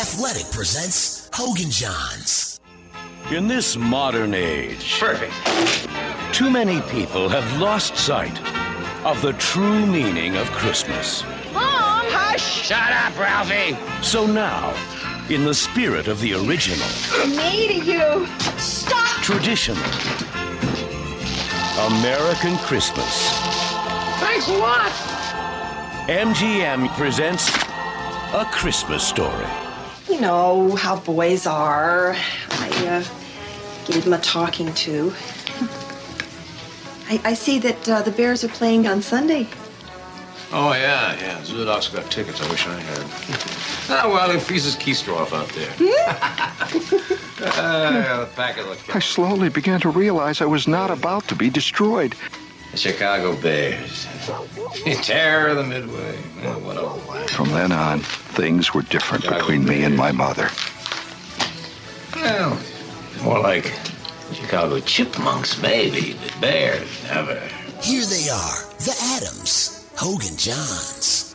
Athletic presents Hogan Johns. In this modern age, Perfect. too many people have lost sight of the true meaning of Christmas. Mom! Hush! Shut up, Ralphie! So now, in the spirit of the original, Me to you. Stop! traditional, American Christmas, Thanks a lot! MGM presents A Christmas Story. You know how boys are. I gave them a talking to. I see that the Bears are playing on Sunday. Oh, yeah. Zudok's got tickets. I wish I had. Well, then Fee's Keystroff out there. The packet looked I slowly began to realize I was not about to be destroyed. The Chicago Bears. Terror of the Midway. Oh, what a laugh. From then on, things were different between me and my mother. Well, more like Chicago Chipmunks, maybe, but Bears, never. Here they are, the Adams, Hogan Johns.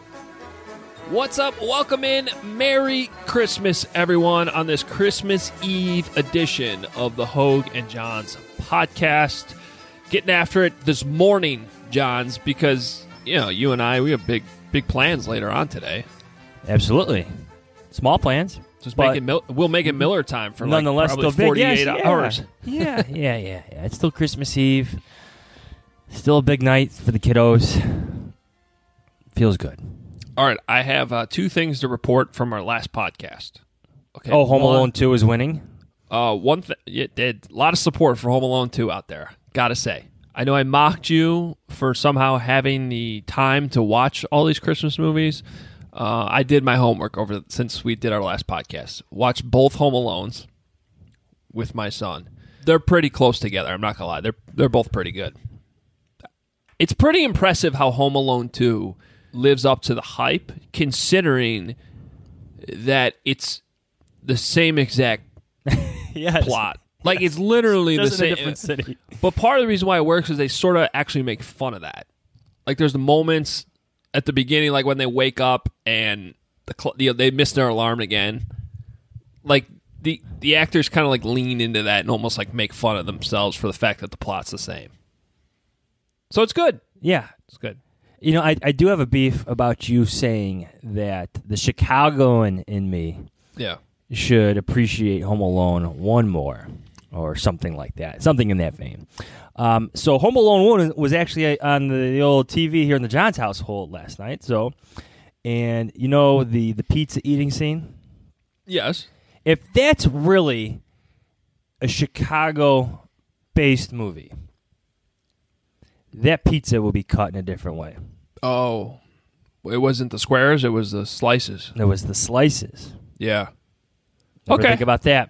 What's up? Welcome in. Merry Christmas, everyone, on this Christmas Eve edition of the Hogue and Johns podcast. Getting after it this morning, Johns, because, you know, you and I, we have big plans later on today. Absolutely. Small plans. Just we'll make it Miller time for nonetheless probably still big. 48 hours. Yeah. It's still Christmas Eve. Still a big night for the kiddos. Feels good. All right, I have two things to report from our last podcast. Okay. Oh, Home Alone 2 is winning? One thing, a lot of support for Home Alone 2 out there, gotta say. I know I mocked you for somehow having the time to watch all these Christmas movies. I did my homework since we did our last podcast. Watched both Home Alones with my son. They're pretty close together, I'm not gonna lie. They're both pretty good. It's pretty impressive how Home Alone 2 lives up to the hype, considering that it's the same exact plot. Like, it's literally the same. In a different city. But part of the reason why it works is they sort of actually make fun of that. Like, there's the moments at the beginning, like when they wake up and they miss their alarm again. Like, the actors kind of like lean into that and almost like make fun of themselves for the fact that the plot's the same. So it's good. Yeah. It's good. You know, I do have a beef about you saying that the Chicagoan in me should appreciate Home Alone 1 more, or something like that. Something in that vein. So Home Alone 1 was actually on the old TV here in the Johns household last night. So, and you know the pizza eating scene? Yes. If that's really a Chicago-based movie, that pizza will be cut in a different way. Oh, it wasn't the squares, it was the slices. It was the slices. Yeah. Never Okay. think about that.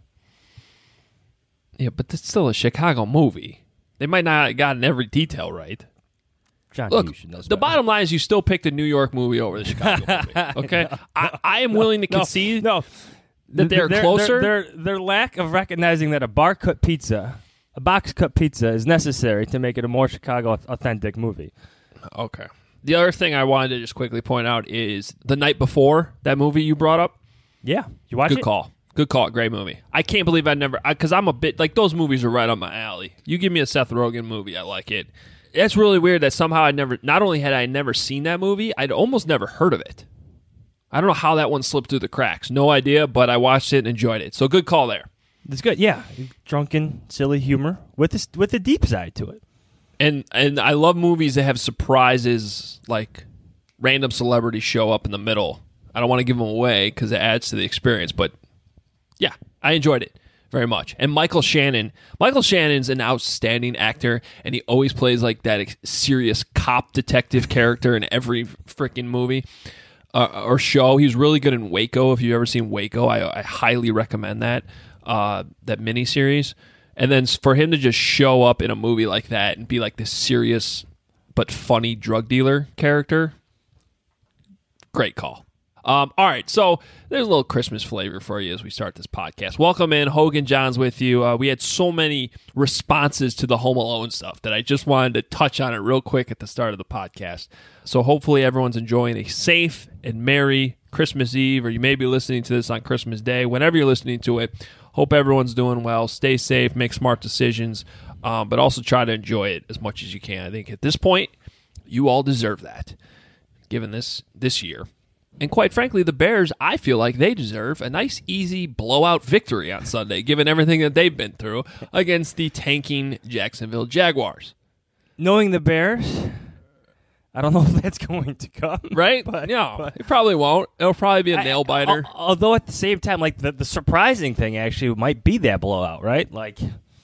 Yeah, but it's still a Chicago movie. They might not have gotten every detail right. John, Look, you should know the bottom line is you still picked a New York movie over the Chicago movie. Okay? I am willing to concede that they're closer. Their lack of recognizing that a box cut pizza is necessary to make it a more Chicago authentic movie. Okay. The other thing I wanted to just quickly point out is The Night Before, that movie you brought up. Yeah. You watch it? Good call. Great movie. I can't believe because I'm a bit, like, those movies are right on my alley. You give me a Seth Rogen movie, I like it. It's really weird that somehow not only had I never seen that movie, I'd almost never heard of it. I don't know how that one slipped through the cracks. No idea, but I watched it and enjoyed it. So good call there. It's good, yeah. Drunken, silly humor with a deep side to it. And I love movies that have surprises, like random celebrities show up in the middle. I don't want to give them away because it adds to the experience, but yeah, I enjoyed it very much. And Michael Shannon's an outstanding actor, and he always plays like that serious cop detective character in every freaking movie or show. He's really good in Waco. If you've ever seen Waco, I highly recommend that miniseries. And then for him to just show up in a movie like that and be like this serious but funny drug dealer character, great call. All right, so there's a little Christmas flavor for you as we start this podcast. Welcome in, Hogan Johns with you. We had so many responses to the Home Alone stuff that I just wanted to touch on it real quick at the start of the podcast. So hopefully everyone's enjoying a safe and merry Christmas Eve, or you may be listening to this on Christmas Day. Whenever you're listening to it, hope everyone's doing well. Stay safe, make smart decisions, but also try to enjoy it as much as you can. I think at this point, you all deserve that, given this year. And quite frankly, the Bears, I feel like they deserve a nice, easy blowout victory on Sunday, given everything that they've been through against the tanking Jacksonville Jaguars. Knowing the Bears, I don't know if that's going to come. Right? No, it probably won't. It'll probably be a nail-biter. Although at the same time, like the surprising thing actually might be that blowout, right? Like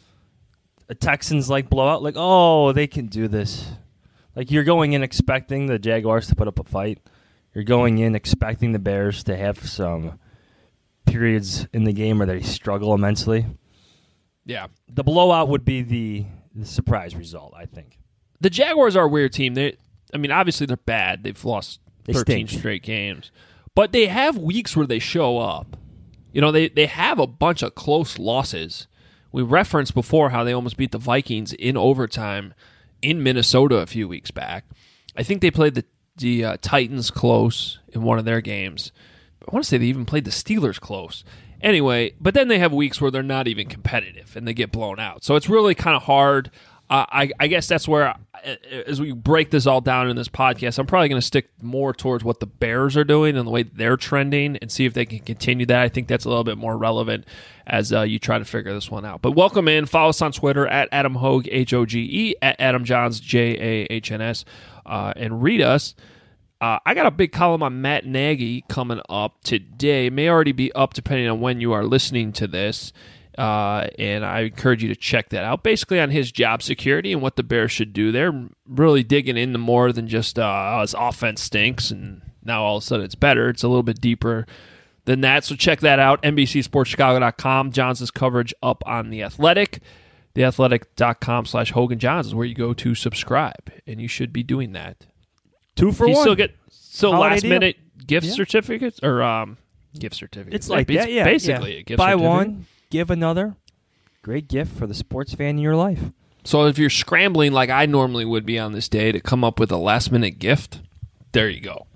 a Texans like blowout, like, oh, they can do this. Like you're going in expecting the Jaguars to put up a fight. You're going in expecting the Bears to have some periods in the game where they struggle immensely. Yeah. The blowout would be the surprise result, I think. The Jaguars are a weird team. Obviously they're bad. They've lost 13 straight games. But they have weeks where they show up. They have a bunch of close losses. We referenced before how they almost beat the Vikings in overtime in Minnesota a few weeks back. I think they played the Titans close in one of their games. I want to say they even played the Steelers close. Anyway, but then they have weeks where they're not even competitive and they get blown out. So it's really kind of hard. I guess that's where, as we break this all down in this podcast, I'm probably going to stick more towards what the Bears are doing and the way they're trending and see if they can continue that. I think that's a little bit more relevant as you try to figure this one out. But welcome in. Follow us on Twitter at Adam Hoge, Hoge, at Adam Johns, Jahns, and read us. I got a big column on Matt Nagy coming up today. It may already be up depending on when you are listening to this. And I encourage you to check that out. Basically on his job security and what the Bears should do. They're really digging into more than just his offense stinks and now all of a sudden it's better. It's a little bit deeper than that. So check that out. NBCSportsChicago.com. Johns' coverage up on The Athletic. TheAthletic.com/Hogan Johns is where you go to subscribe, and you should be doing that. 2 for you one. Still get last deal. minute gift certificates or gift certificates. It's like that, yeah. Basically, a gift Buy certificate. one, give another. Great gift for the sports fan in your life. So if you're scrambling like I normally would be on this day to come up with a last minute gift, there you go.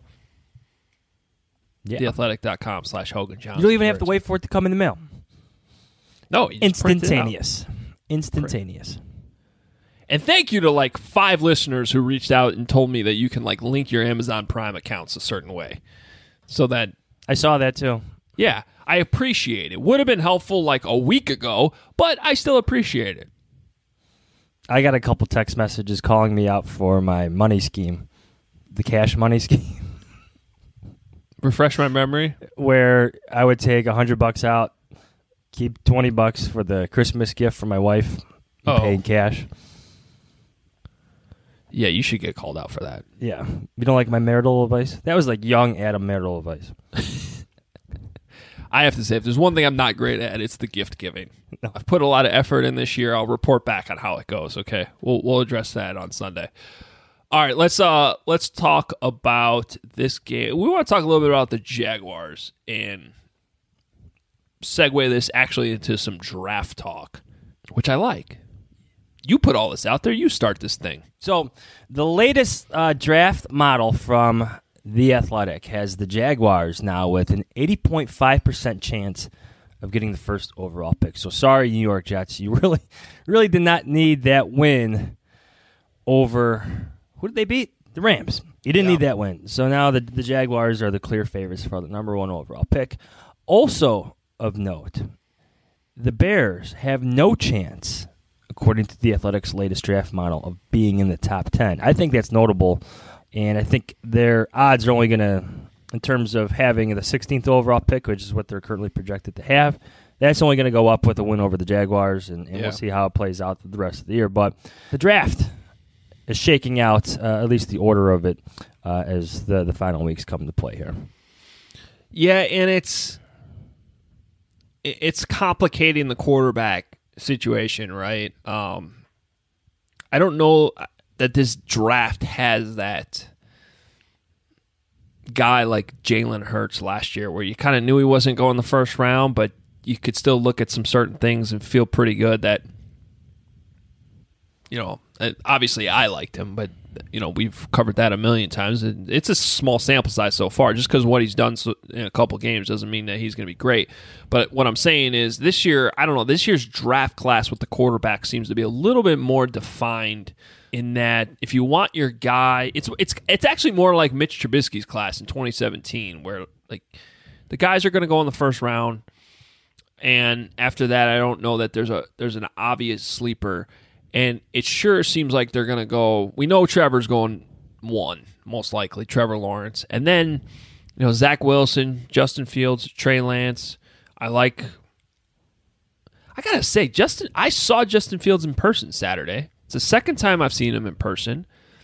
Yeah. TheAthletic.com/Hogan Johns. You don't even have to wait for it to come in the mail. No, you just print it out. Instantaneous. And thank you to like 5 listeners who reached out and told me that you can like link your Amazon Prime accounts a certain way. So that I saw that too. Yeah, I appreciate it. Would have been helpful like a week ago, but I still appreciate it. I got a couple text messages calling me out for my money scheme, the cash money scheme. Refresh my memory. Where I would take $100 out, keep $20 for the Christmas gift for my wife, and pay in cash. Yeah, you should get called out for that. Yeah. You don't like my marital advice? That was like young Adam marital advice. I have to say, if there's one thing I'm not great at, it's the gift giving. No. I've put a lot of effort in this year. I'll report back on how it goes, okay? We'll address that on Sunday. All right, let's talk about this game. We want to talk a little bit about the Jaguars and segue this actually into some draft talk, which I like. You put all this out there. You start this thing. So the latest draft model from The Athletic has the Jaguars now with an 80.5% chance of getting the first overall pick. So sorry, New York Jets. You really did not need that win over... Who did they beat? The Rams. You didn't need that win. So now the Jaguars are the clear favorites for the number 1 overall pick. Also of note, the Bears have no chance, according to The Athletic's latest draft model, of being in the top 10. I think that's notable, and I think their odds are only going to, in terms of having the 16th overall pick, which is what they're currently projected to have, that's only going to go up with a win over the Jaguars, and we'll see how it plays out the rest of the year. But the draft is shaking out, at least the order of it, as the final weeks come to play here. Yeah, and it's complicating the quarterback situation, right? I don't know that this draft has that guy like Jalen Hurts last year where you kind of knew he wasn't going the first round, but you could still look at some certain things and feel pretty good that obviously I liked him, but we've covered that a million times. It's a small sample size so far. Just because what he's done in a couple games doesn't mean that he's going to be great. But what I'm saying is this year, I don't know, this year's draft class with the quarterback seems to be a little bit more defined in that if you want your guy, it's actually more like Mitch Trubisky's class in 2017 where like the guys are going to go in the first round, and after that I don't know that there's an obvious sleeper. And it sure seems like they're going to go. We know Trevor's going 1, most likely, Trevor Lawrence. And then, Zach Wilson, Justin Fields, Trey Lance. I got to say, I saw Justin Fields in person Saturday. It's the second time I've seen him in person.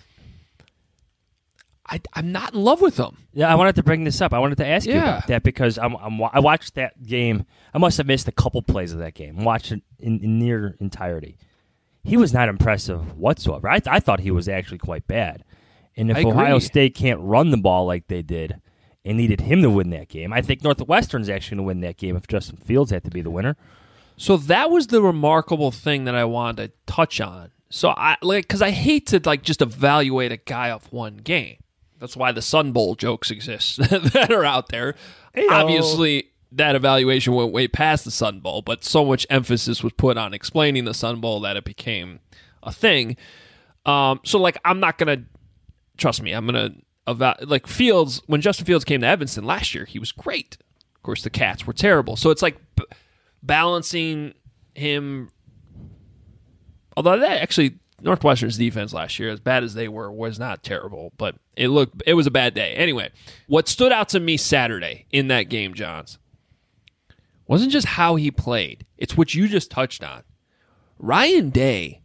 I'm not in love with him. Yeah, I wanted to bring this up. I wanted to ask you about that because I watched that game. I must have missed a couple plays of that game. I watched it in near entirety. He was not impressive whatsoever. I thought he was actually quite bad. And if Ohio State can't run the ball like they did and needed him to win that game, I think Northwestern's actually going to win that game if Justin Fields had to be the winner. So that was the remarkable thing that I wanted to touch on. So because I hate to just evaluate a guy off one game. That's why the Sun Bowl jokes exist that are out there. Hey-o. Obviously, that evaluation went way past the Sun Bowl, but so much emphasis was put on explaining the Sun Bowl that it became a thing. So, I'm not going to, trust me, I'm going to, Fields, when Justin Fields came to Evanston last year, he was great. Of course, the Cats were terrible. So it's balancing him, although that actually, Northwestern's defense last year, as bad as they were, was not terrible, but it was a bad day. Anyway, what stood out to me Saturday in that game, Johns, wasn't just how he played. It's what you just touched on. Ryan Day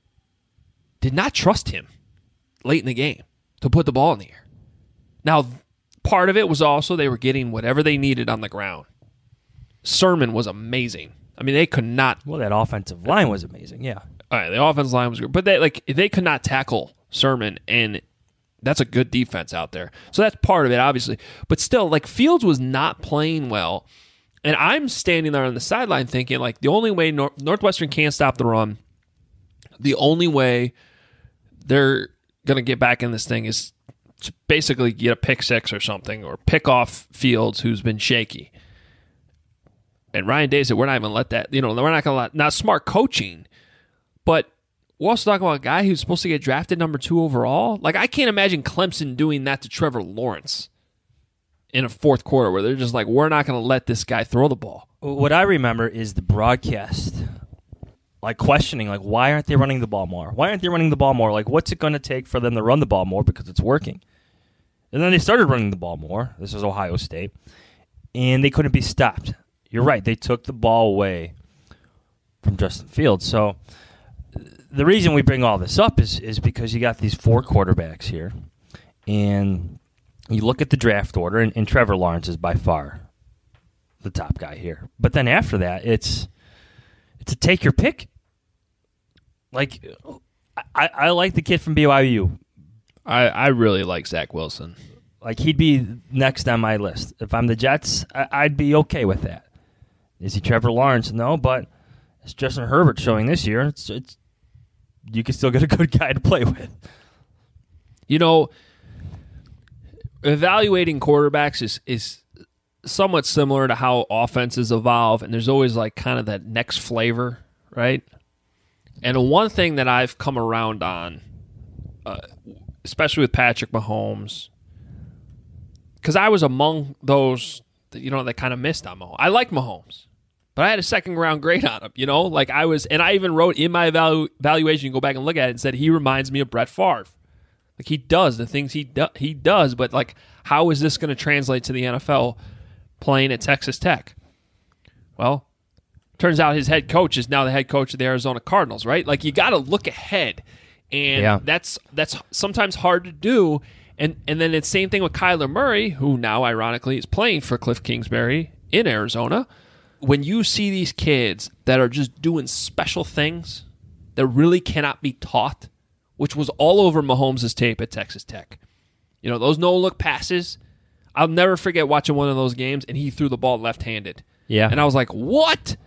did not trust him late in the game to put the ball in the air. Now, part of it was also they were getting whatever they needed on the ground. Sermon was amazing. I mean, they could not. Well, that offensive line was amazing, yeah. All right, the offensive line was good. But they could not tackle Sermon, and that's a good defense out there. So that's part of it, obviously. But still, Fields was not playing well. And I'm standing there on the sideline thinking, the only way Northwestern can't stop the run, the only way they're going to get back in this thing is to basically get a pick six or something, or pick off Fields, who's been shaky. And Ryan Day said, we're not even going to let that, we're not going to let, not smart coaching, but we're also talking about a guy who's supposed to get drafted number 2 overall. I can't imagine Clemson doing that to Trevor Lawrence in a fourth quarter where they're just we're not going to let this guy throw the ball. What I remember is the broadcast, questioning, why aren't they running the ball more? Why aren't they running the ball more? What's it going to take for them to run the ball more because it's working? And then they started running the ball more. This is Ohio State. And they couldn't be stopped. You're right. They took the ball away from Justin Fields. So the reason we bring all this up is because you got these 4 quarterbacks here. And you look at the draft order, and Trevor Lawrence is by far the top guy here. But then after that, it's a take your pick. I like the kid from BYU. I really like Zach Wilson. He'd be next on my list. If I'm the Jets, I'd be okay with that. Is he Trevor Lawrence? No, but it's Justin Herbert showing this year. It's you can still get a good guy to play with. Evaluating quarterbacks is somewhat similar to how offenses evolve, and there's always kind of that next flavor, right? And one thing that I've come around on, especially with Patrick Mahomes, because I was among those that kind of missed on Mahomes. I like Mahomes, but I had a second-round grade on him, and I even wrote in my evaluation, you go back and look at it, and said he reminds me of Brett Favre. He does the things he does, but how is this going to translate to the NFL playing at Texas Tech? Well, turns out his head coach is now the head coach of the Arizona Cardinals, right? You got to look ahead, and that's sometimes hard to do. And then it's the same thing with Kyler Murray, who now ironically is playing for Cliff Kingsbury in Arizona. When you see these kids that are just doing special things that really cannot be taught, which was all over Mahomes' tape at Texas Tech. Those no-look passes, I'll never forget watching one of those games, and he threw the ball left-handed. Yeah. And I was like, what?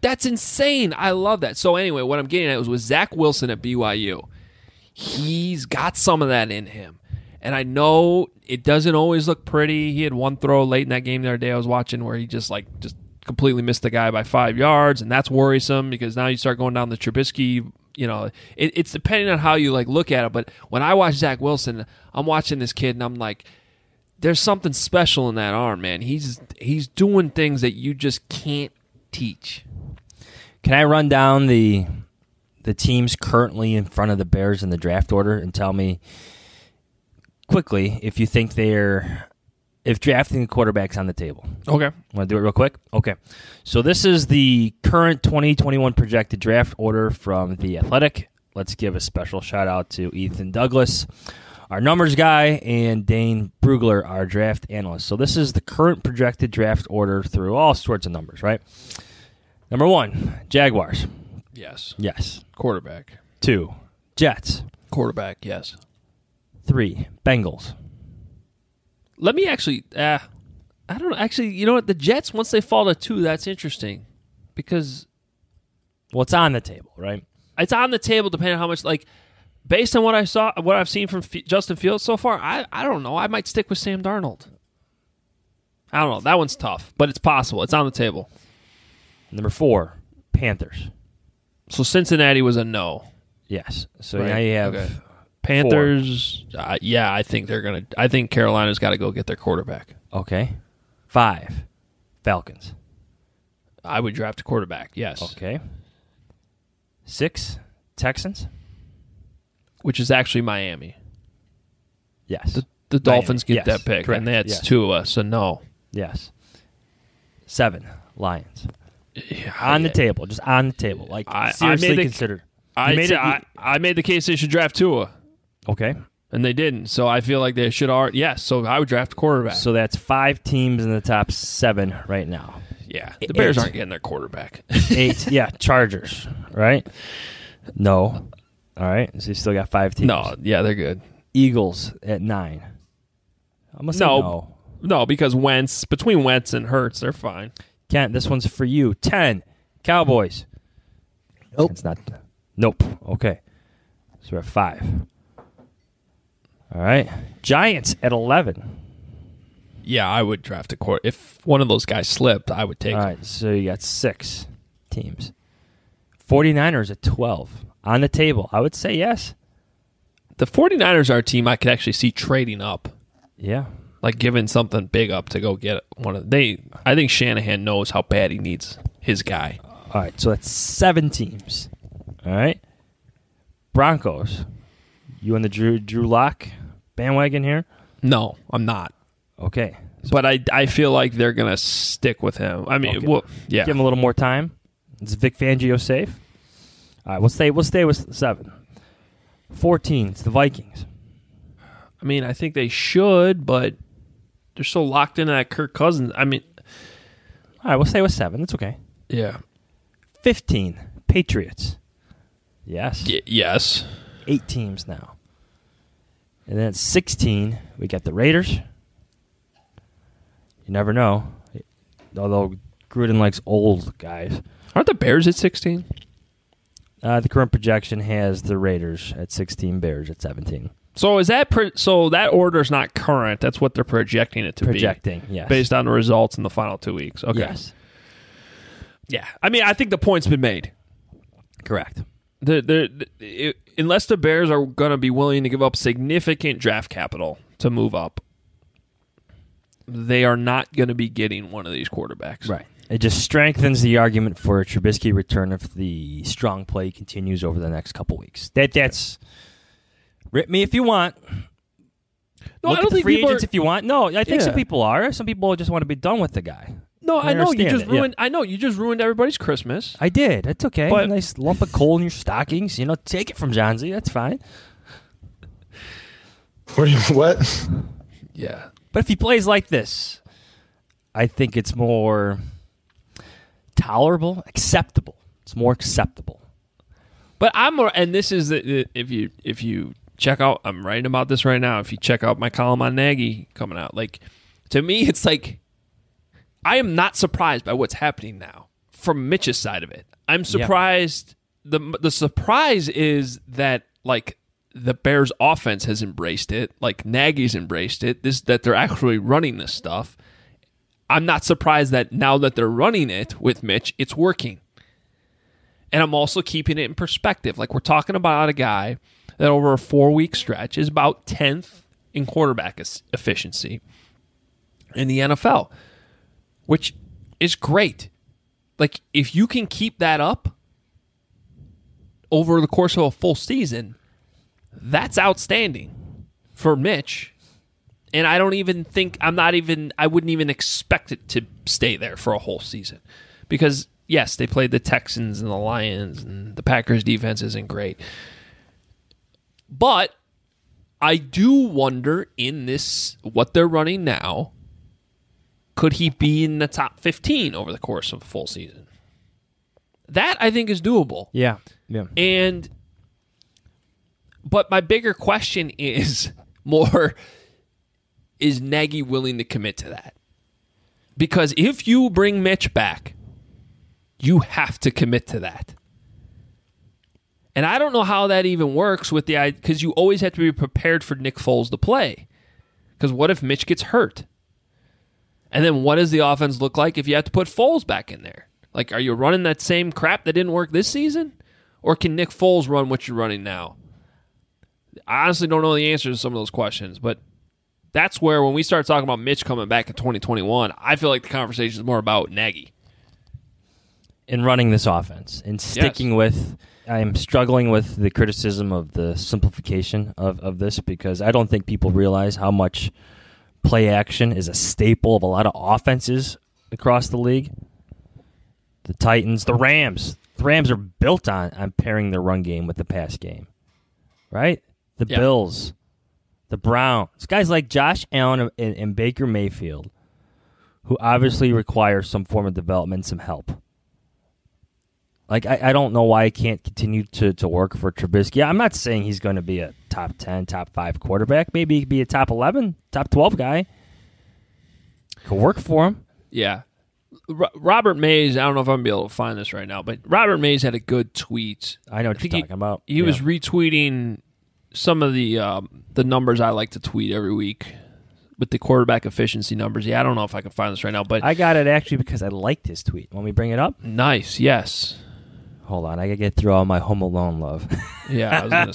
That's insane. I love that. So anyway, what I'm getting at was with Zach Wilson at BYU. He's got some of that in him. And I know it doesn't always look pretty. He had one throw late in that game the other day I was watching where he just completely missed the guy by 5 yards, and that's worrisome because now you start going down the Trubisky, it's depending on how you look at it. But when I watch Zach Wilson, I'm watching this kid and I'm like, there's something special in that arm, man. He's doing things that you just can't teach. Can I run down the teams currently in front of the Bears in the draft order and tell me quickly if you think if drafting a quarterback's on the table? Okay. Want to do it real quick? Okay. So this is the current 2021 projected draft order from The Athletic. Let's give a special shout out to Ethan Douglas, our numbers guy, and Dane Brugler, our draft analyst. So this is the current projected draft order through all sorts of numbers, right? Number 1, Jaguars. Yes. Yes. Quarterback. 2, Jets. Quarterback, yes. 3, Bengals. Let me actually, I don't know. Actually, you know what? The Jets, once they fall to 2, that's interesting because. Well, it's on the table, right? It's on the table depending on how much, based on what I've seen from Justin Fields so far, I don't know. I might stick with Sam Darnold. I don't know. That one's tough, but it's possible. It's on the table. Number 4, Panthers. So Cincinnati was a no. Yes. So now you have Panthers. I think they're gonna. I think Carolina's got to go get their quarterback. Okay. 5, Falcons. I would draft a quarterback. Yes. Okay. 6, Texans. Which is actually Miami. Yes. The Dolphins get Yes, that pick, correct. and that's Yes. Tua. So no. Yes. 7, Lions. On the table, just on the table. Seriously considered. I made the case they should draft Tua. Okay. And they didn't. So I feel like they should already. Yes, so I would draft a quarterback. So that's 5 teams in the top 7 right now. Yeah. The Bears aren't getting their quarterback. 8, yeah, Chargers, right? No. All right. So you still got 5 teams. No, yeah, they're good. Eagles at 9. I'm going to say no. No, because between Wentz and Hurts, they're fine. Kent, this one's for you. 10, Cowboys. Nope. It's not. Nope. Okay. So we're at 5. All right. Giants at 11. Yeah, I would draft a quarterback. If one of those guys slipped, I would take All him. right. So you got 6 teams. 49ers at 12. On the table. I would say yes. The 49ers are a team I could actually see trading up. Yeah. Giving something big up to go get one of I think Shanahan knows how bad he needs his guy. All right, so that's 7 teams. All right. Broncos. You on the Drew Lock bandwagon here? No, I'm not. Okay. But I feel like they're going to stick with him. I mean, yeah. Give him a little more time. Is Vic Fangio safe? All right, we'll stay with 7. 14, it's the Vikings. I mean, I think they should, but they're so locked into that Kirk Cousins. I mean, all right, we'll stay with 7. That's okay. Yeah. 15, Patriots. Yes. Yes. 8 teams now. And then at 16, we got the Raiders. You never know. Although Gruden likes old guys. Aren't the Bears at 16? The current projection has the Raiders at 16, Bears at 17. So is that that order is not current? That's what they're projecting it to be. Projecting, yes. Based on the results in the final 2 weeks. Okay. Yes. Yeah. I mean, I think the point's been made. Correct. Unless the Bears are going to be willing to give up significant draft capital to move up, they are not going to be getting one of these quarterbacks. Right. It just strengthens the argument for a Trubisky return if the strong play continues over the next couple weeks. That's rip me if you want. No, Look I don't at the think free people agents if you want. No, I think some Yeah. people are. Some people just want to be done with the guy. No, I know you understand just it, yeah. ruined. I know you just ruined everybody's Christmas. I did. It's okay. But- A nice lump of coal in your stockings. Take it from John Z. That's fine. What? Yeah. But if he plays like this, I think it's more tolerable, acceptable. It's more acceptable. But I'm more, and this is if you check out, I'm writing about this right now. If you check out my column on Nagy coming out, to me, it's like I am not surprised by what's happening now. from Mitch's side of it. I'm surprised. The surprise is that like the Bears offense has embraced it, like Nagy's embraced it, that they're actually running this stuff. I'm not surprised that now that they're running it with Mitch, it's working. And I'm also keeping it in perspective. Like, we're talking about a guy that over a 4-week stretch is about 10th in quarterback efficiency in the NFL, which is great. Like, if you can keep that up over the course of a full season, that's outstanding for Mitch. And I don't even think, I wouldn't even expect it to stay there for a whole season. Because, yes, they played the Texans and the Lions, and the Packers' defense isn't great. But I do wonder in this, what they're running now, could he be in the top 15 over the course of a full season? That, I think, is doable. Yeah. But my bigger question is more, is Nagy willing to commit to that? Because if you bring Mitch back, you have to commit to that. And I don't know how that even works with because you always have to be prepared for Nick Foles to play. Because what if Mitch gets hurt? And then what does the offense look like if you have to put Foles back in there? Like, are you running that same crap that didn't work this season? Or can Nick Foles run what you're running now? I honestly don't know the answers to some of those questions, but that's where when we start talking about Mitch coming back in 2021, I feel like the conversation is more about Nagy. In running this offense and sticking with, I am struggling with the criticism of the simplification of this because I don't think people realize how much play action is a staple of a lot of offenses across the league. The Titans, the Rams. The Rams are built on pairing their run game with the pass game, right? The Bills, the Browns, guys like Josh Allen and Baker Mayfield, who obviously require some form of development, some help. Like, I don't know why I can't continue to work for Trubisky. I'm not saying he's going to be a top 10, top 5 quarterback. Maybe he could be a top 11, top 12 guy. Could work for him. Yeah. Robert Mays, I don't know if I'm going to be able to find this right now, but Robert Mays had a good tweet. I know what you're talking about. He was retweeting some of the numbers I like to tweet every week with the quarterback efficiency numbers. Yeah, I don't know if I can find this right now, but I got it actually because I liked his tweet. Want me to bring it up? Nice, yes. Hold on, I got to get through all my Home Alone love. Yeah, I was going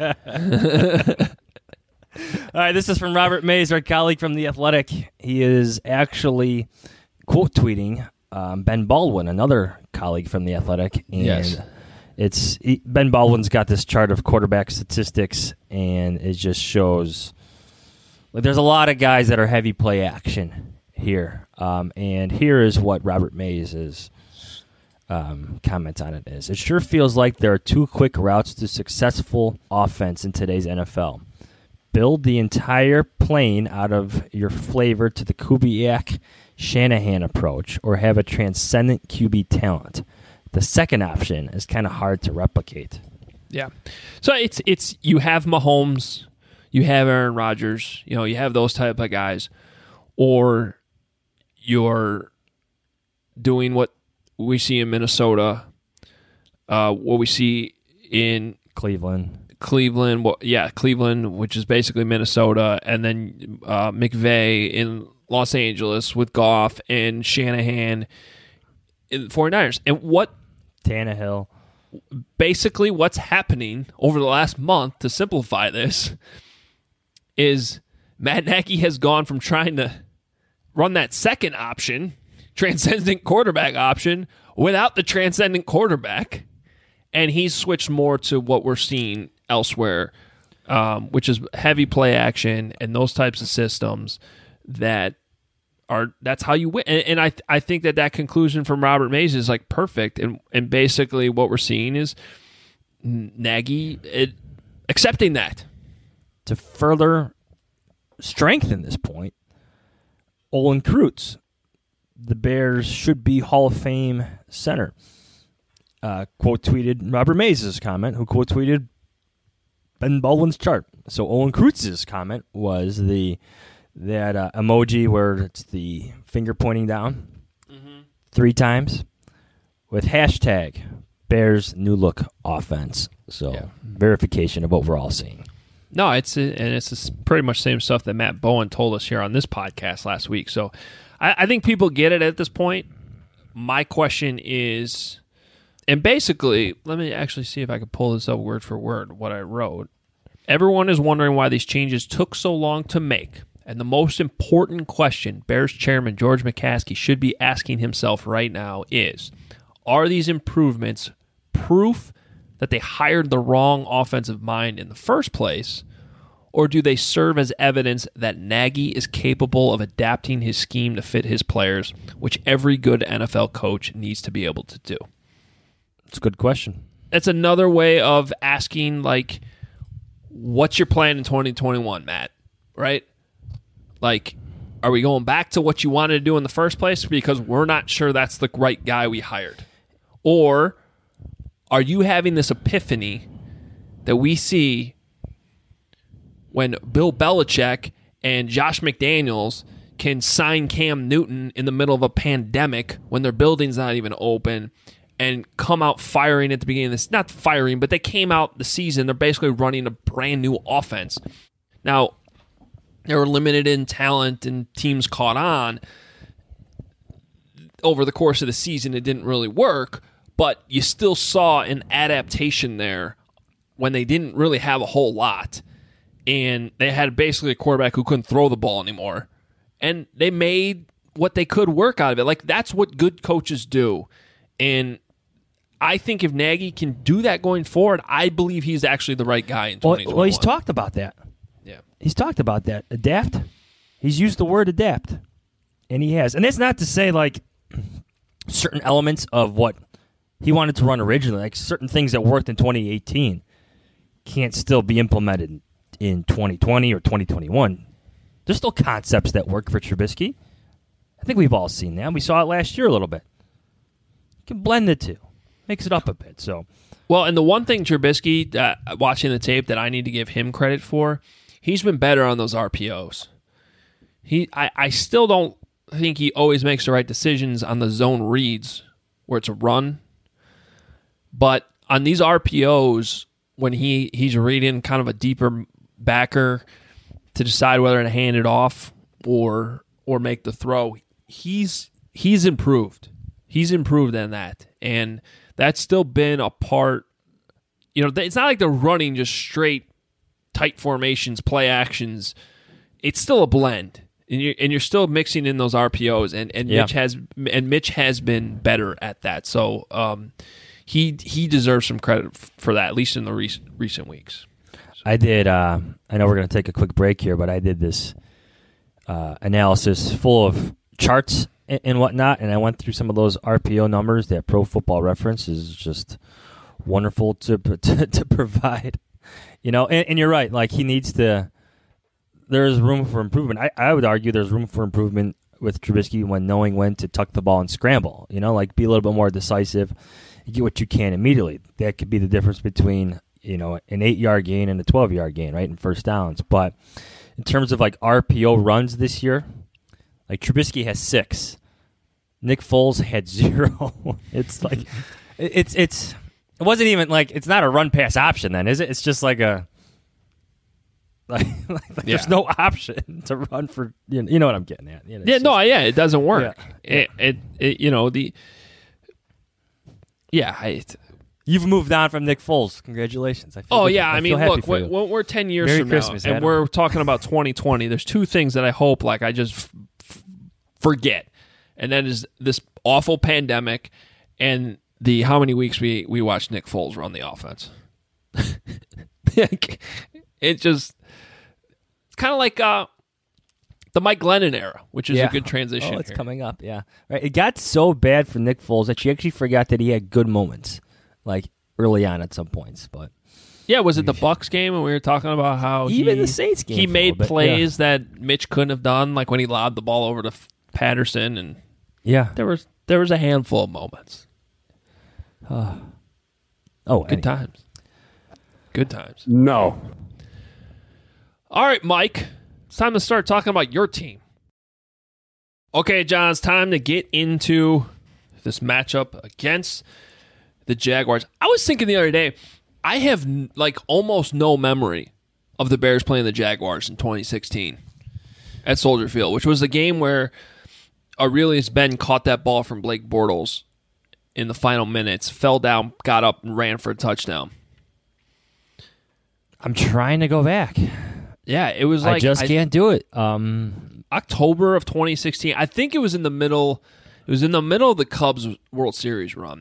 to say. All right, this is from Robert Mays, our colleague from The Athletic. He is actually quote tweeting Ben Baldwin, another colleague from The Athletic. And Ben Baldwin's got this chart of quarterback statistics, and it just shows there's a lot of guys that are heavy play action here. And here is what Robert Mays' comment on it is. It sure feels like there are 2 quick routes to successful offense in today's NFL. Build the entire plane out of your flavor to the Kubiak-Shanahan approach, or have a transcendent QB talent. The second option is kind of hard to replicate. Yeah. So it's you have Mahomes, you have Aaron Rodgers, you have those type of guys, or you're doing what we see in Minnesota, what we see in Cleveland, which is basically Minnesota, and then McVay in Los Angeles with Goff and Shanahan in the 49ers. And what Tannehill. Basically what's happening over the last month, to simplify this, is Matt Nagy has gone from trying to run that second option, transcendent quarterback option, without the transcendent quarterback, and he's switched more to what we're seeing elsewhere, which is heavy play action and those types of systems that's how you win. And I think that conclusion from Robert Mays is like perfect. And basically what we're seeing is Nagy accepting that. To further strengthen this point, Olin Kreutz, the Bears should be Hall of Fame center, quote tweeted Robert Mays' comment, who quote tweeted Ben Baldwin's chart. So Olin Kreutz's comment was that emoji where it's the finger pointing down 3 times. with hashtag Bears new look offense. So verification of what we're all seeing. No, it's pretty much the same stuff that Matt Bowen told us here on this podcast last week. So I think people get it at this point. My question is, and basically, let me actually see if I can pull this up word for word, what I wrote. Everyone is wondering why these changes took so long to make. And the most important question Bears chairman George McCaskey should be asking himself right now is, are these improvements proof that they hired the wrong offensive mind in the first place, or do they serve as evidence that Nagy is capable of adapting his scheme to fit his players, which every good NFL coach needs to be able to do? It's a good question. That's another way of asking, like, what's your plan in 2021, Matt? Right? Like, are we going back to what you wanted to do in the first place because we're not sure that's the right guy we hired? Or are you having this epiphany that we see when Bill Belichick and Josh McDaniels can sign Cam Newton in the middle of a pandemic when their building's not even open and come out firing at the beginning of this? Not firing, but they came out the season. They're basically running a brand new offense. Now, they were limited in talent and teams caught on. Over the course of the season, it didn't really work, but you still saw an adaptation there when they didn't really have a whole lot. And they had basically a quarterback who couldn't throw the ball anymore. And they made what they could work out of it. Like, that's what good coaches do. And I think if Nagy can do that going forward, I believe he's actually the right guy in 2021. Well, he's talked about that. Yeah. He's talked about that. Adapt. He's used the word adapt. And he has. And that's not to say, like, certain elements of what he wanted to run originally, like certain things that worked in 2018 can't still be implemented in 2020 or 2021. There's still concepts that work for Trubisky. I think we've all seen that. We saw it last year a little bit. You can blend the two. Makes it up a bit. So, well, and the one thing Trubisky, watching the tape, that I need to give him credit for, he's been better on those RPOs. I still don't think he always makes the right decisions on the zone reads where it's a run. But on these RPOs, when he's reading kind of a deeper backer to decide whether to hand it off or make the throw, he's improved. He's improved in that. And that's still been a part. You know, it's not like they're running just straight tight formations, play actions. It's still a blend. And you're still mixing in those RPOs, and Mitch has been better at that. So he deserves some credit for that, at least in the recent weeks. So. I did. I know we're going to take a quick break here, but I did this analysis full of charts and whatnot, and I went through some of those RPO numbers that Pro Football Reference is just wonderful to provide. You know, and you're right. Like, he needs to. There's room for improvement. I would argue there's room for improvement with Trubisky when knowing when to tuck the ball and scramble. You know, like, be a little bit more decisive. You get what you can immediately. That could be the difference between, you know, an 8-yard gain and a 12-yard gain, right, in first downs. But in terms of, like, RPO runs this year, like, Trubisky has 6. Nick Foles had 0. It's like, it wasn't even like, it's not a run pass option then, is it? It's just like a. There's no option to run for, you know what I'm getting at. You know, it doesn't work. Yeah. You've moved on from Nick Foles. Congratulations. I mean, look, we're 10 years Merry from Christmas, now, and we're talking about 2020. There's two things that I hope, like, I just forget, and that is this awful pandemic and the how many weeks we watched Nick Foles run the offense. It's kind of like the Mike Glennon era, which is a good transition. It's coming up, yeah. Right. It got so bad for Nick Foles that you actually forgot that he had good moments, like early on at some points. But yeah, was it the Bucs game when we were talking about how even the Saints game he made plays that Mitch couldn't have done, like when he lobbed the ball over to Patterson, and there was a handful of moments. Good times. Good times. No. All right, Mike. It's time to start talking about your team. Okay, John, it's time to get into this matchup against the Jaguars. I was thinking the other day, I have almost no memory of the Bears playing the Jaguars in 2016 at Soldier Field, which was the game where Aurelius Ben caught that ball from Blake Bortles in the final minutes, fell down, got up, and ran for a touchdown. I'm trying to go back. Yeah, it was I just can't do it. October of 2016. I think it was in the middle. It was in the middle of the Cubs World Series run.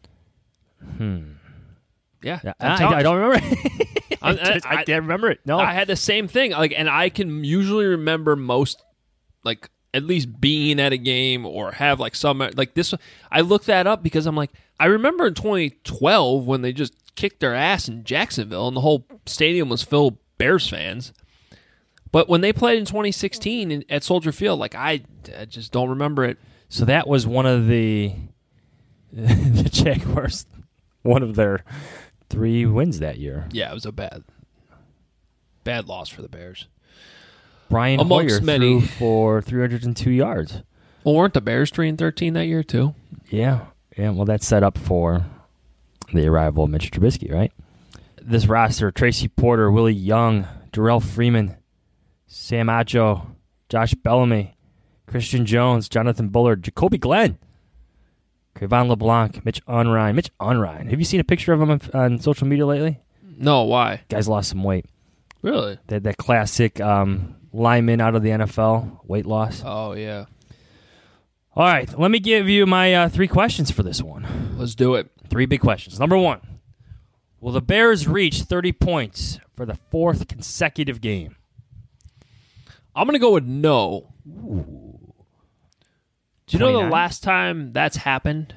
Yeah, I don't remember. I can't remember it. No, I had the same thing. And I can usually remember most, at least being at a game or have some this. I looked that up because I'm I remember in 2012 when they just kicked their ass in Jacksonville and the whole stadium was filled with Bears fans. But when they played in 2016 at Soldier Field, I just don't remember it. So that was one of the Jaguars, one of their 3 wins that year. Yeah, it was a bad loss for the Bears. Brian Amongst Hoyer many. threw for 302 yards. Well, weren't the Bears 3-13 that year too? Yeah. Well, that's set up for the arrival of Mitch Trubisky, right? This roster: Tracy Porter, Willie Young, Darrell Freeman, Sam Acho, Josh Bellamy, Christian Jones, Jonathan Bullard, Jacoby Glenn, Cre'Von LeBlanc, Mitch Unrein. Have you seen a picture of him on social media lately? No, why? Guy's lost some weight. Really? That classic lineman out of the NFL, weight loss. Oh, yeah. All right, let me give you my 3 questions for this one. Let's do it. 3 big questions. Number 1, will the Bears reach 30 points for the 4th consecutive game? I'm going to go with no. Ooh. Do you 29? know the last time that's happened?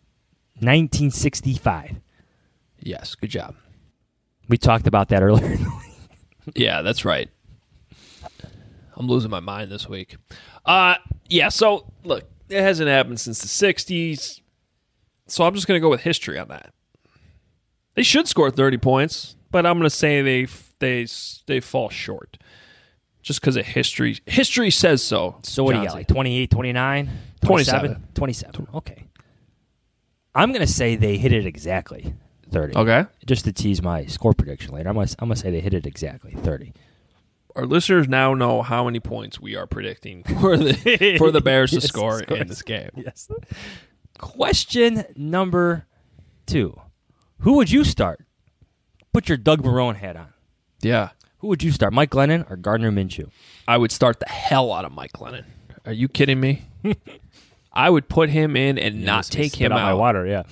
1965. Yes, good job. We talked about that earlier. Yeah, that's right. I'm losing my mind this week. Yeah, so, look, it hasn't happened since the 60s, so I'm just going to go with history on that. They should score 30 points, but I'm going to say they fall short. Just because of history. History says so. So what do you got, 28, 29? 27? 27. Okay. I'm going to say they hit it exactly, 30. Okay. Just to tease my score prediction later, I'm going to say they hit it exactly, 30. Our listeners now know how many points we are predicting for the Bears to score in this game. Yes. Question number 2. Who would you start? Put your Doug Marrone hat on. Yeah. Who would you start, Mike Glennon or Gardner Minshew? I would start the hell out of Mike Glennon. Are you kidding me? I would put him in and not take him out. My water, yeah.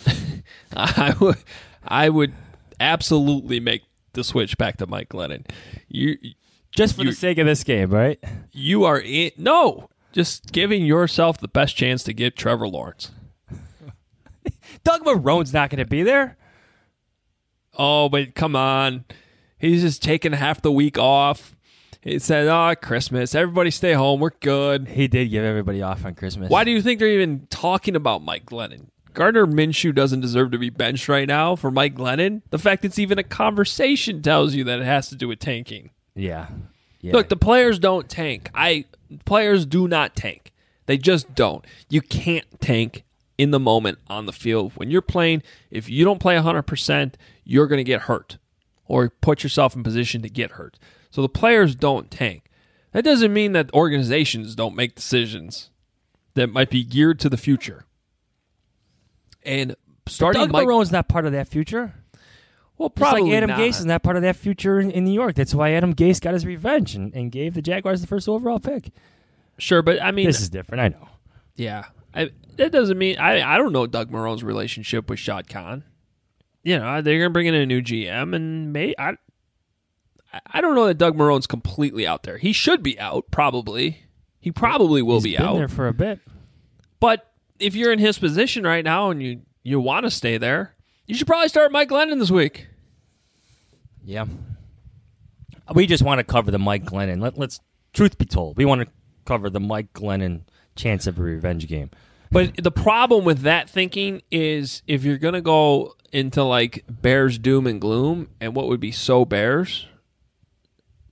I would absolutely make the switch back to Mike Glennon. Just for the sake of this game, right? You are in. No, just giving yourself the best chance to get Trevor Lawrence. Doug Marrone's not going to be there. Oh, but come on. He's just taking half the week off. He said, Christmas. Everybody stay home. We're good. He did give everybody off on Christmas. Why do you think they're even talking about Mike Glennon? Gardner Minshew doesn't deserve to be benched right now for Mike Glennon. The fact it's even a conversation tells you that it has to do with tanking. Yeah. Look, the players don't tank. Players do not tank. They just don't. You can't tank in the moment on the field. When you're playing, if you don't play 100%, you're going to get hurt or put yourself in position to get hurt. So the players don't tank. That doesn't mean that organizations don't make decisions that might be geared to the future. And starting Doug Marrone's not part of that future. Well, probably just like Adam not. Gase is not part of that future in New York. That's why Adam Gase got his revenge and gave the Jaguars the first overall pick. Sure, but I mean... This is different, I know. Yeah. That doesn't mean... I don't know Doug Marrone's relationship with Shad Khan. You know, they're going to bring in a new GM, and I don't know that Doug Marrone's completely out there. He should be out, probably. He probably will be out. He's been there for a bit. But if you're in his position right now and you want to stay there, you should probably start Mike Glennon this week. Yeah. We just want to cover the Mike Glennon. Let's truth be told, we want to cover the Mike Glennon chance of a revenge game. But the problem with that thinking is if you're going to go into like Bears doom and gloom and what would be so Bears,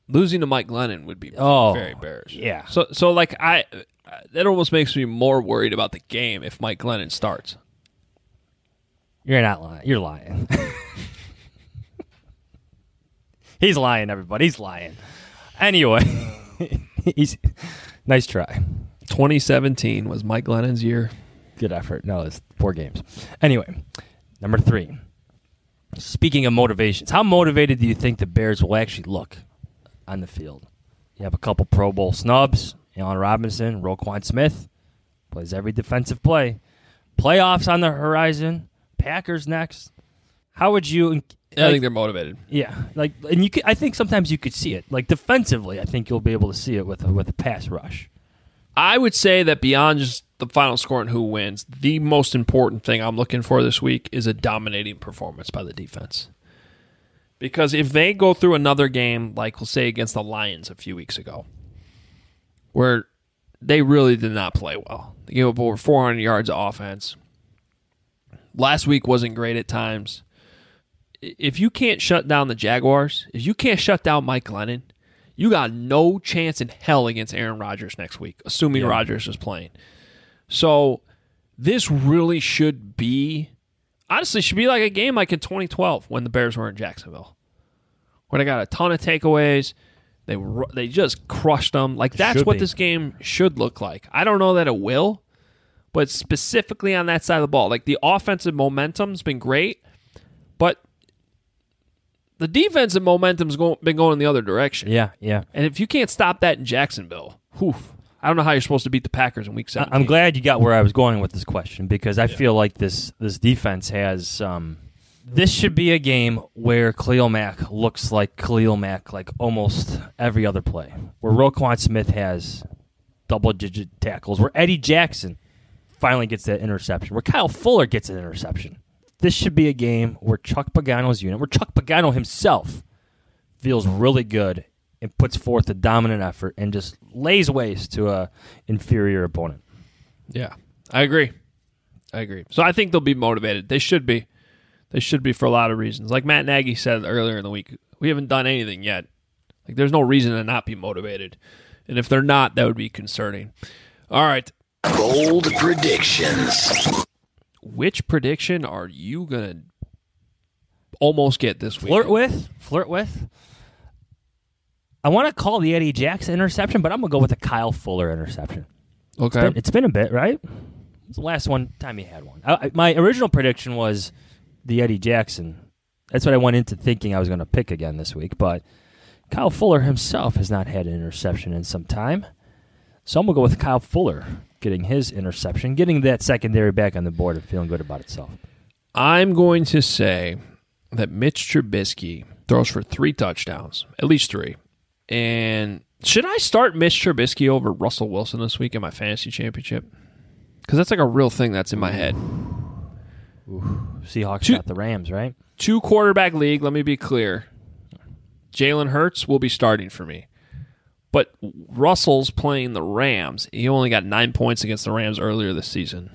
losing to Mike Glennon would be very embarrassing. Yeah. So like that almost makes me more worried about the game if Mike Glennon starts. You're not lying. You're lying. He's lying, everybody. He's lying. Anyway, nice try. 2017 was Mike Glennon's year. Good effort. No, it's 4 games. Anyway, number 3. Speaking of motivations, how motivated do you think the Bears will actually look on the field? You have a couple Pro Bowl snubs. Allen Robinson, Roquan Smith plays every defensive play. Playoffs on the horizon. Packers next. How would you? I think they're motivated. Yeah, and I think sometimes you could see it. Like defensively, I think you'll be able to see it with a pass rush. I would say that beyond just the final score and who wins, the most important thing I'm looking for this week is a dominating performance by the defense. Because if they go through another game, like we'll say against the Lions a few weeks ago, where they really did not play well. They gave up over 400 yards of offense. Last week wasn't great at times. If you can't shut down the Jaguars, if you can't shut down Mike Glennon, you got no chance in hell against Aaron Rodgers next week, assuming Rodgers is playing. So this really should be, honestly, should be like a game like in 2012 when the Bears were in Jacksonville, where they got a ton of takeaways. They just crushed them. Like that's what this game should look like. I don't know that it will, but specifically on that side of the ball, like the offensive momentum's been great, but the defensive momentum's been going the other direction. Yeah, yeah. And if you can't stop that in Jacksonville, I don't know how you're supposed to beat the Packers in Week 17. I'm glad you got where I was going with this question because I feel like this defense has. This should be a game where Khalil Mack looks like Khalil Mack like almost every other play. Where Roquan Smith has double-digit tackles. Where Eddie Jackson finally gets that interception. Where Kyle Fuller gets an interception. This should be a game where Chuck Pagano's unit, where Chuck Pagano himself feels really good and puts forth a dominant effort and just lays waste to a inferior opponent. Yeah, I agree. So I think they'll be motivated. They should be. They should be for a lot of reasons. Like Matt Nagy said earlier in the week, we haven't done anything yet. Like there's no reason to not be motivated. And if they're not, that would be concerning. All right. Bold predictions. Which prediction are you going to almost get this week? Flirt with. I want to call the Eddie Jackson interception, but I'm going to go with the Kyle Fuller interception. Okay. It's been a bit, right? It's the last time he had one. My original prediction was the Eddie Jackson. That's what I went into thinking I was going to pick again this week, but Kyle Fuller himself has not had an interception in some time. So I'm going to go with Kyle Fuller getting his interception, getting that secondary back on the board and feeling good about itself. I'm going to say that Mitch Trubisky throws for 3 touchdowns, at least 3. And should I start Mitch Trubisky over Russell Wilson this week in my fantasy championship? Because that's like a real thing that's in my head. Ooh. Seahawks got the Rams, right? 2-quarterback league, let me be clear. Jalen Hurts will be starting for me. But Russell's playing the Rams. He only got 9 points against the Rams earlier this season.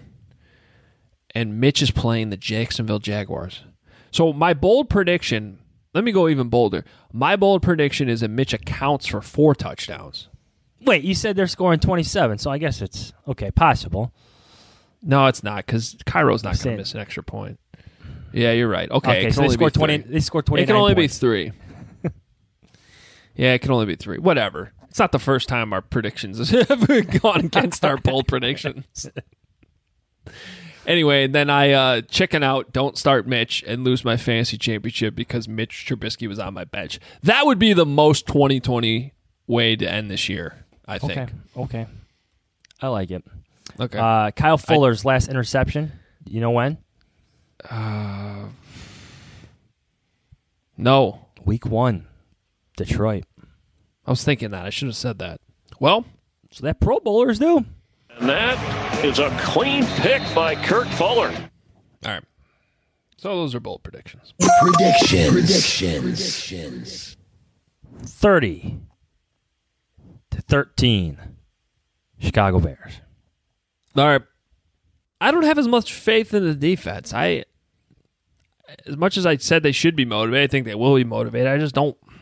And Mitch is playing the Jacksonville Jaguars. So my bold prediction, let me go even bolder. My bold prediction is that Mitch accounts for 4 touchdowns. Wait, you said they're scoring 27, so I guess it's, okay, possible. No, it's not, because Cairo's not going to miss an extra point. Yeah, you're right. Okay, so they scored 20. They scored 29. It can only points. be 3. Yeah, it can only be 3. Whatever. It's not the first time our predictions have gone against our bold predictions. Anyway, then I chicken out, don't start Mitch, and lose my fantasy championship because Mitch Trubisky was on my bench. That would be the most 2020 way to end this year, I think. Okay. I like it. Okay. Kyle Fuller's last interception, you know when? No. Week 1, Detroit. I was thinking that. I should have said that. Well, so that Pro Bowlers do. And that is a clean pick by Kurt Fuller. All right. So those are bold predictions. Predictions. 30-13. Chicago Bears. All right. I don't have as much faith in the defense. As much as I said they should be motivated, I think they will be motivated. I just don't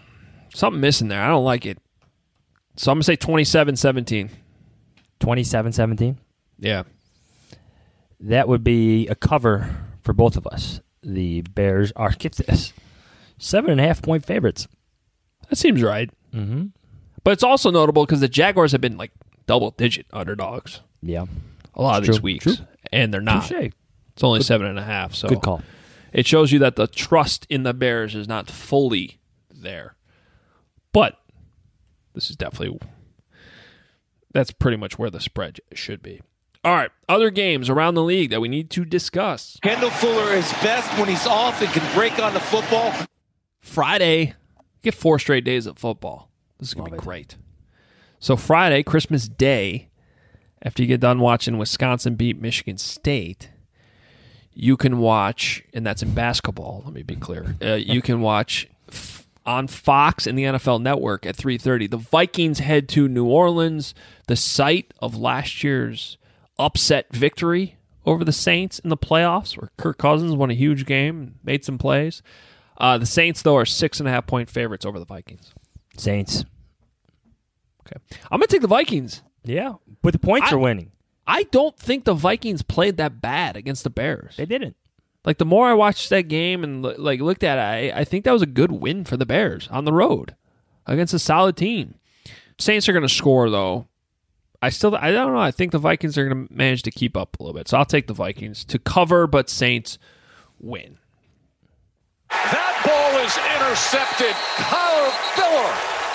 Something missing there. I don't like it. So I'm going to say 27-17. 27-17? Yeah. That would be a cover for both of us. The Bears are, get this, 7.5-point favorites. That seems right. Mm-hmm. But it's also notable because the Jaguars have been like double-digit underdogs. Yeah. A lot of these weeks. True. And they're not. Touché. It's only 7.5. So good call. It shows you that the trust in the Bears is not fully there. But this is definitely, that's pretty much where the spread should be. All right, other games around the league that we need to discuss. Kendall Fuller is best when he's off and can break on the football. Friday, get 4 straight days of football. This is going to be great. So Friday, Christmas Day, after you get done watching Wisconsin beat Michigan State, you can watch, and that's in basketball, let me be clear, you can watch on Fox and the NFL Network at 3:30. The Vikings head to New Orleans, the site of last year's upset victory over the Saints in the playoffs, where Kirk Cousins won a huge game, made some plays. The Saints, though, are 6.5-point favorites over the Vikings. Saints. Okay. I'm going to take the Vikings. Yeah, but the points are winning. I don't think the Vikings played that bad against the Bears. They didn't. Like, the more I watched that game and looked at it, I think that was a good win for the Bears on the road against a solid team. Saints are going to score, though. I don't know. I think the Vikings are going to manage to keep up a little bit. So I'll take the Vikings to cover, but Saints win. That ball is intercepted. Kyle Fuller.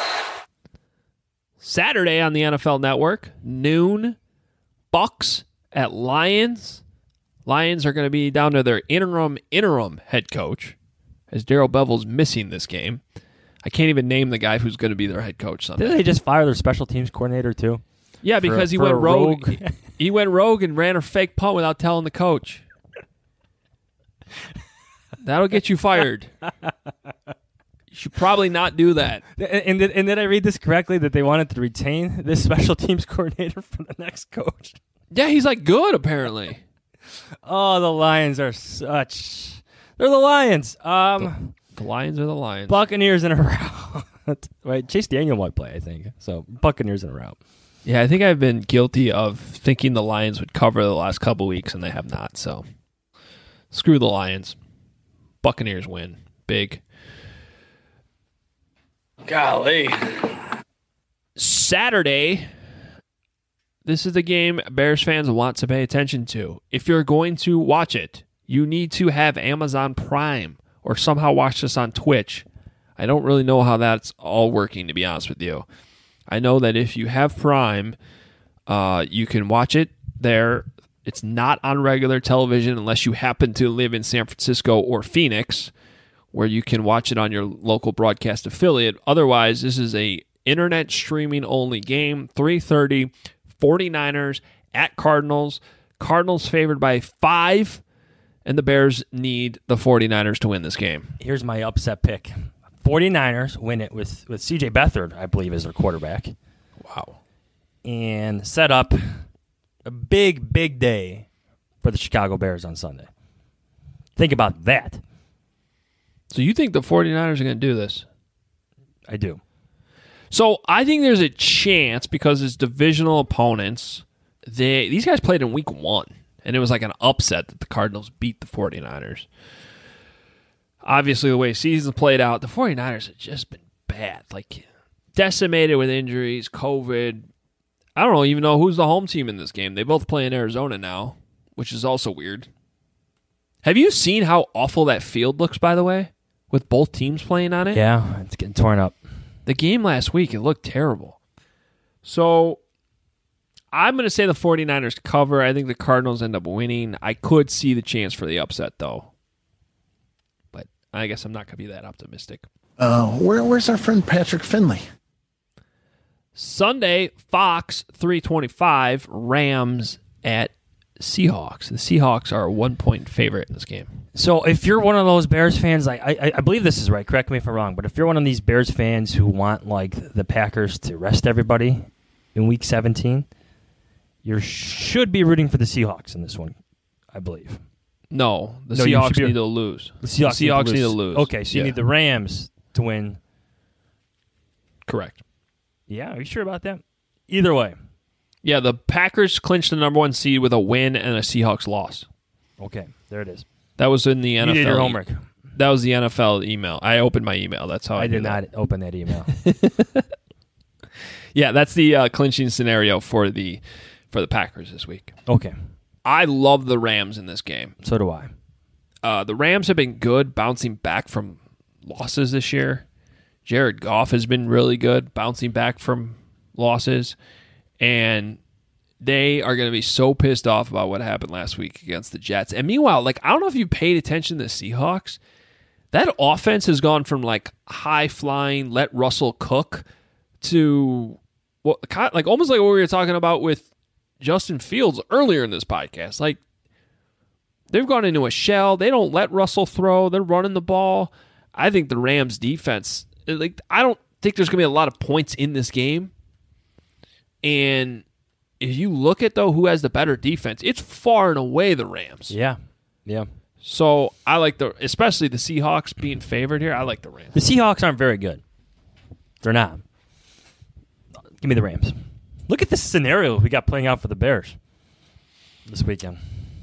Saturday on the NFL Network, noon, Bucks at Lions. Lions are going to be down to their interim head coach, as Darrell Bevel's missing this game. I can't even name the guy who's going to be their head coach Sunday. Didn't they just fire their special teams coordinator, too? Yeah, because he went rogue. He went rogue and ran a fake punt without telling the coach. That'll get you fired. You should probably not do that. And did I read this correctly, that they wanted to retain this special teams coordinator for the next coach? Yeah, he's like good, apparently. Oh, the Lions are such... They're the Lions. The Lions are the Lions. Buccaneers in a row. Right, Chase Daniel might play, I think. So, Buccaneers in a row. Yeah, I think I've been guilty of thinking the Lions would cover the last couple weeks, and they have not. So, screw the Lions. Buccaneers win. Big. Golly. Saturday, this is the game Bears fans want to pay attention to. If you're going to watch it, you need to have Amazon Prime or somehow watch this on Twitch. I don't really know how that's all working, to be honest with you. I know that if you have Prime, you can watch it there. It's not on regular television unless you happen to live in San Francisco or Phoenix, where you can watch it on your local broadcast affiliate. Otherwise, this is a internet streaming only game. 3:30, 49ers at Cardinals. Cardinals favored by 5, and the Bears need the 49ers to win this game. Here's my upset pick. 49ers win it with C.J. Beathard, I believe, as their quarterback. Wow. And set up a big, big day for the Chicago Bears on Sunday. Think about that. So you think the 49ers are going to do this? I do. So I think there's a chance because it's divisional opponents. These guys played in week 1, and it was like an upset that the Cardinals beat the 49ers. Obviously, the way seasons played out, the 49ers have just been bad. Like, decimated with injuries, COVID. I don't even know who's the home team in this game. They both play in Arizona now, which is also weird. Have you seen how awful that field looks, by the way, with both teams playing on it? Yeah, it's getting torn up. The game last week, it looked terrible. So, I'm going to say the 49ers cover. I think the Cardinals end up winning. I could see the chance for the upset, though. But I guess I'm not going to be that optimistic. Where's our friend Patrick Finley? Sunday, Fox 325, Rams at Seahawks. The Seahawks are a 1-point favorite in this game. So if you're one of those Bears fans, I believe this is right, correct me if I'm wrong, but if you're one of these Bears fans who want like the Packers to rest everybody in Week 17, you should be rooting for the Seahawks in this one, I believe. No, the Seahawks need to lose. The Seahawks need to lose. Okay, so you need the Rams to win Correct. Yeah, are you sure about that? Either way. Yeah, the Packers clinched the number 1 seed with a win and a Seahawks loss. Okay, there it is. That was in the NFL. You did your homework. That was the NFL email. I opened my email. That's how I did not open that email. Yeah, that's the clinching scenario for the Packers this week. Okay. I love the Rams in this game. So do I. The Rams have been good bouncing back from losses this year. Jared Goff has been really good bouncing back from losses. And they are going to be so pissed off about what happened last week against the Jets. And meanwhile, I don't know if you paid attention to the Seahawks. That offense has gone from high-flying, let Russell cook to almost like what we were talking about with Justin Fields earlier in this podcast. They've gone into a shell. They don't let Russell throw. They're running the ball. I think the Rams defense, I don't think there's going to be a lot of points in this game. And if you look at, who has the better defense, it's far and away the Rams. Yeah. Yeah. So I like especially the Seahawks being favored here. I like the Rams. The Seahawks aren't very good. They're not. Give me the Rams. Look at this scenario we got playing out for the Bears this weekend.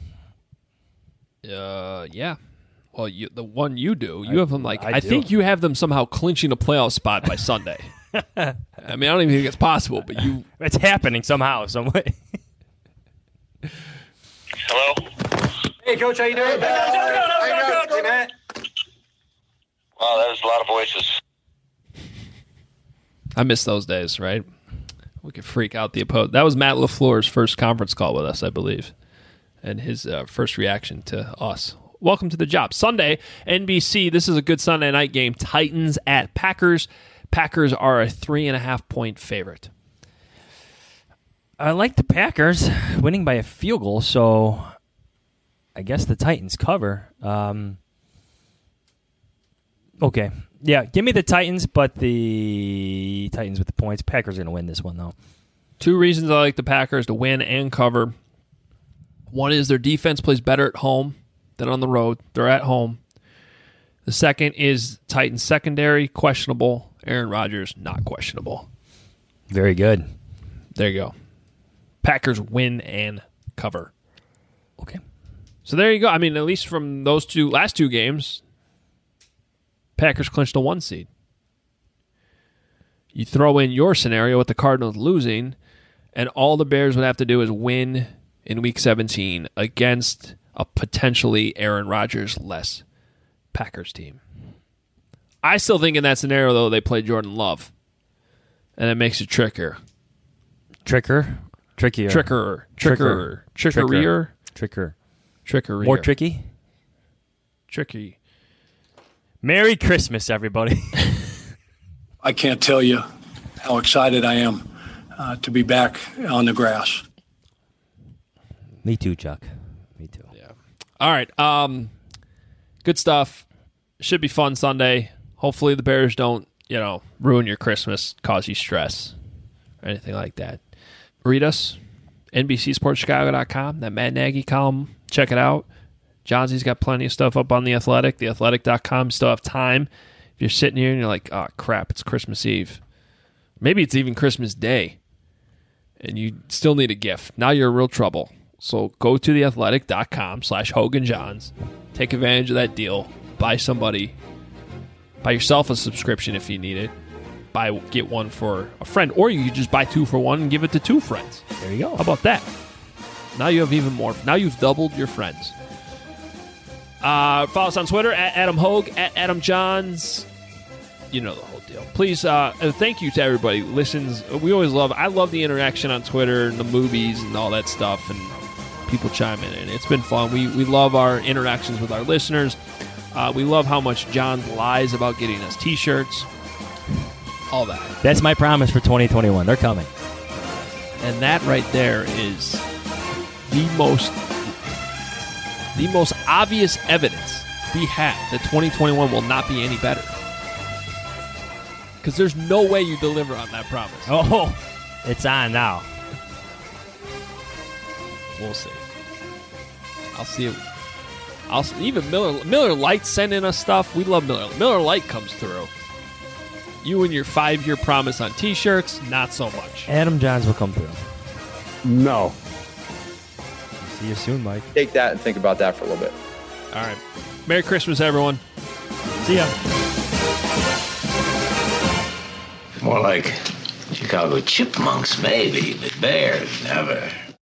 Yeah. Well, the one you do, you have them I think you have them somehow clinching a playoff spot by Sunday. I mean, I don't even think it's possible, but it's happening somehow, some way. Hello? Hey, Coach, how you doing? Hey, man. Wow, that was a lot of voices. I miss those days, right? We could freak out the opponent. That was Matt LaFleur's first conference call with us, I believe, and his first reaction to us. Welcome to the job. Sunday, NBC. This is a good Sunday night game. Titans at Packers. Packers are a 3.5-point favorite. I like the Packers winning by a field goal, so I guess the Titans cover. Okay. Yeah, give me the Titans, but the Titans with the points. Packers are going to win this one, though. 2 reasons I like the Packers to win and cover. One is their defense plays better at home than on the road. They're at home. The second is Titans secondary, questionable. Aaron Rodgers, not questionable. Very good. There you go. Packers win and cover. Okay. So there you go. I mean, at least from those last two games, Packers clinched a 1 seed. You throw in your scenario with the Cardinals losing, and all the Bears would have to do is win in Week 17 against a potentially Aaron Rodgers-less Packers team. I still think in that scenario, though, they play Jordan Love, and it makes it trickier. Trickier. More tricky? Tricky. Merry Christmas, everybody. I can't tell you how excited I am to be back on the grass. Me too, Chuck. Me too. Yeah. All right. Good stuff. Should be fun Sunday. Hopefully the Bears don't, ruin your Christmas, cause you stress, or anything like that. Read us, NBCSportsChicago.com, that Matt Nagy column. Check it out. Johnsy's got plenty of stuff up on The Athletic, theathletic.com. Still have time. If you're sitting here and you're like, oh, crap, it's Christmas Eve. Maybe it's even Christmas Day, and you still need a gift. Now you're in real trouble. So go to theathletic.com/HoganJohns. Take advantage of that deal. Buy yourself a subscription if you need it. Get one for a friend. Or you could just buy 2 for 1 and give it to 2 friends. There you go. How about that? Now you have even more. Now you've doubled your friends. Follow us on Twitter at Adam Hogue, at Adam Johns. You know the whole deal. Please, thank you to everybody who listens. I love the interaction on Twitter and the movies and all that stuff, and people chime in. And it's been fun. We love our interactions with our listeners. We love how much John lies about getting us T-shirts. All that. That's my promise for 2021. They're coming. And that right there is the most obvious evidence we have that 2021 will not be any better. Because there's no way you deliver on that promise. Oh, it's on now. We'll see. I'll see it. Even Miller Lite sending us stuff. We love Miller. Miller Lite comes through. You and your 5-year promise on T-shirts, not so much. Adam Johns will come through. No. See you soon, Mike. Take that and think about that for a little bit. All right. Merry Christmas, everyone. See ya. More like Chicago chipmunks, maybe, but bears, never.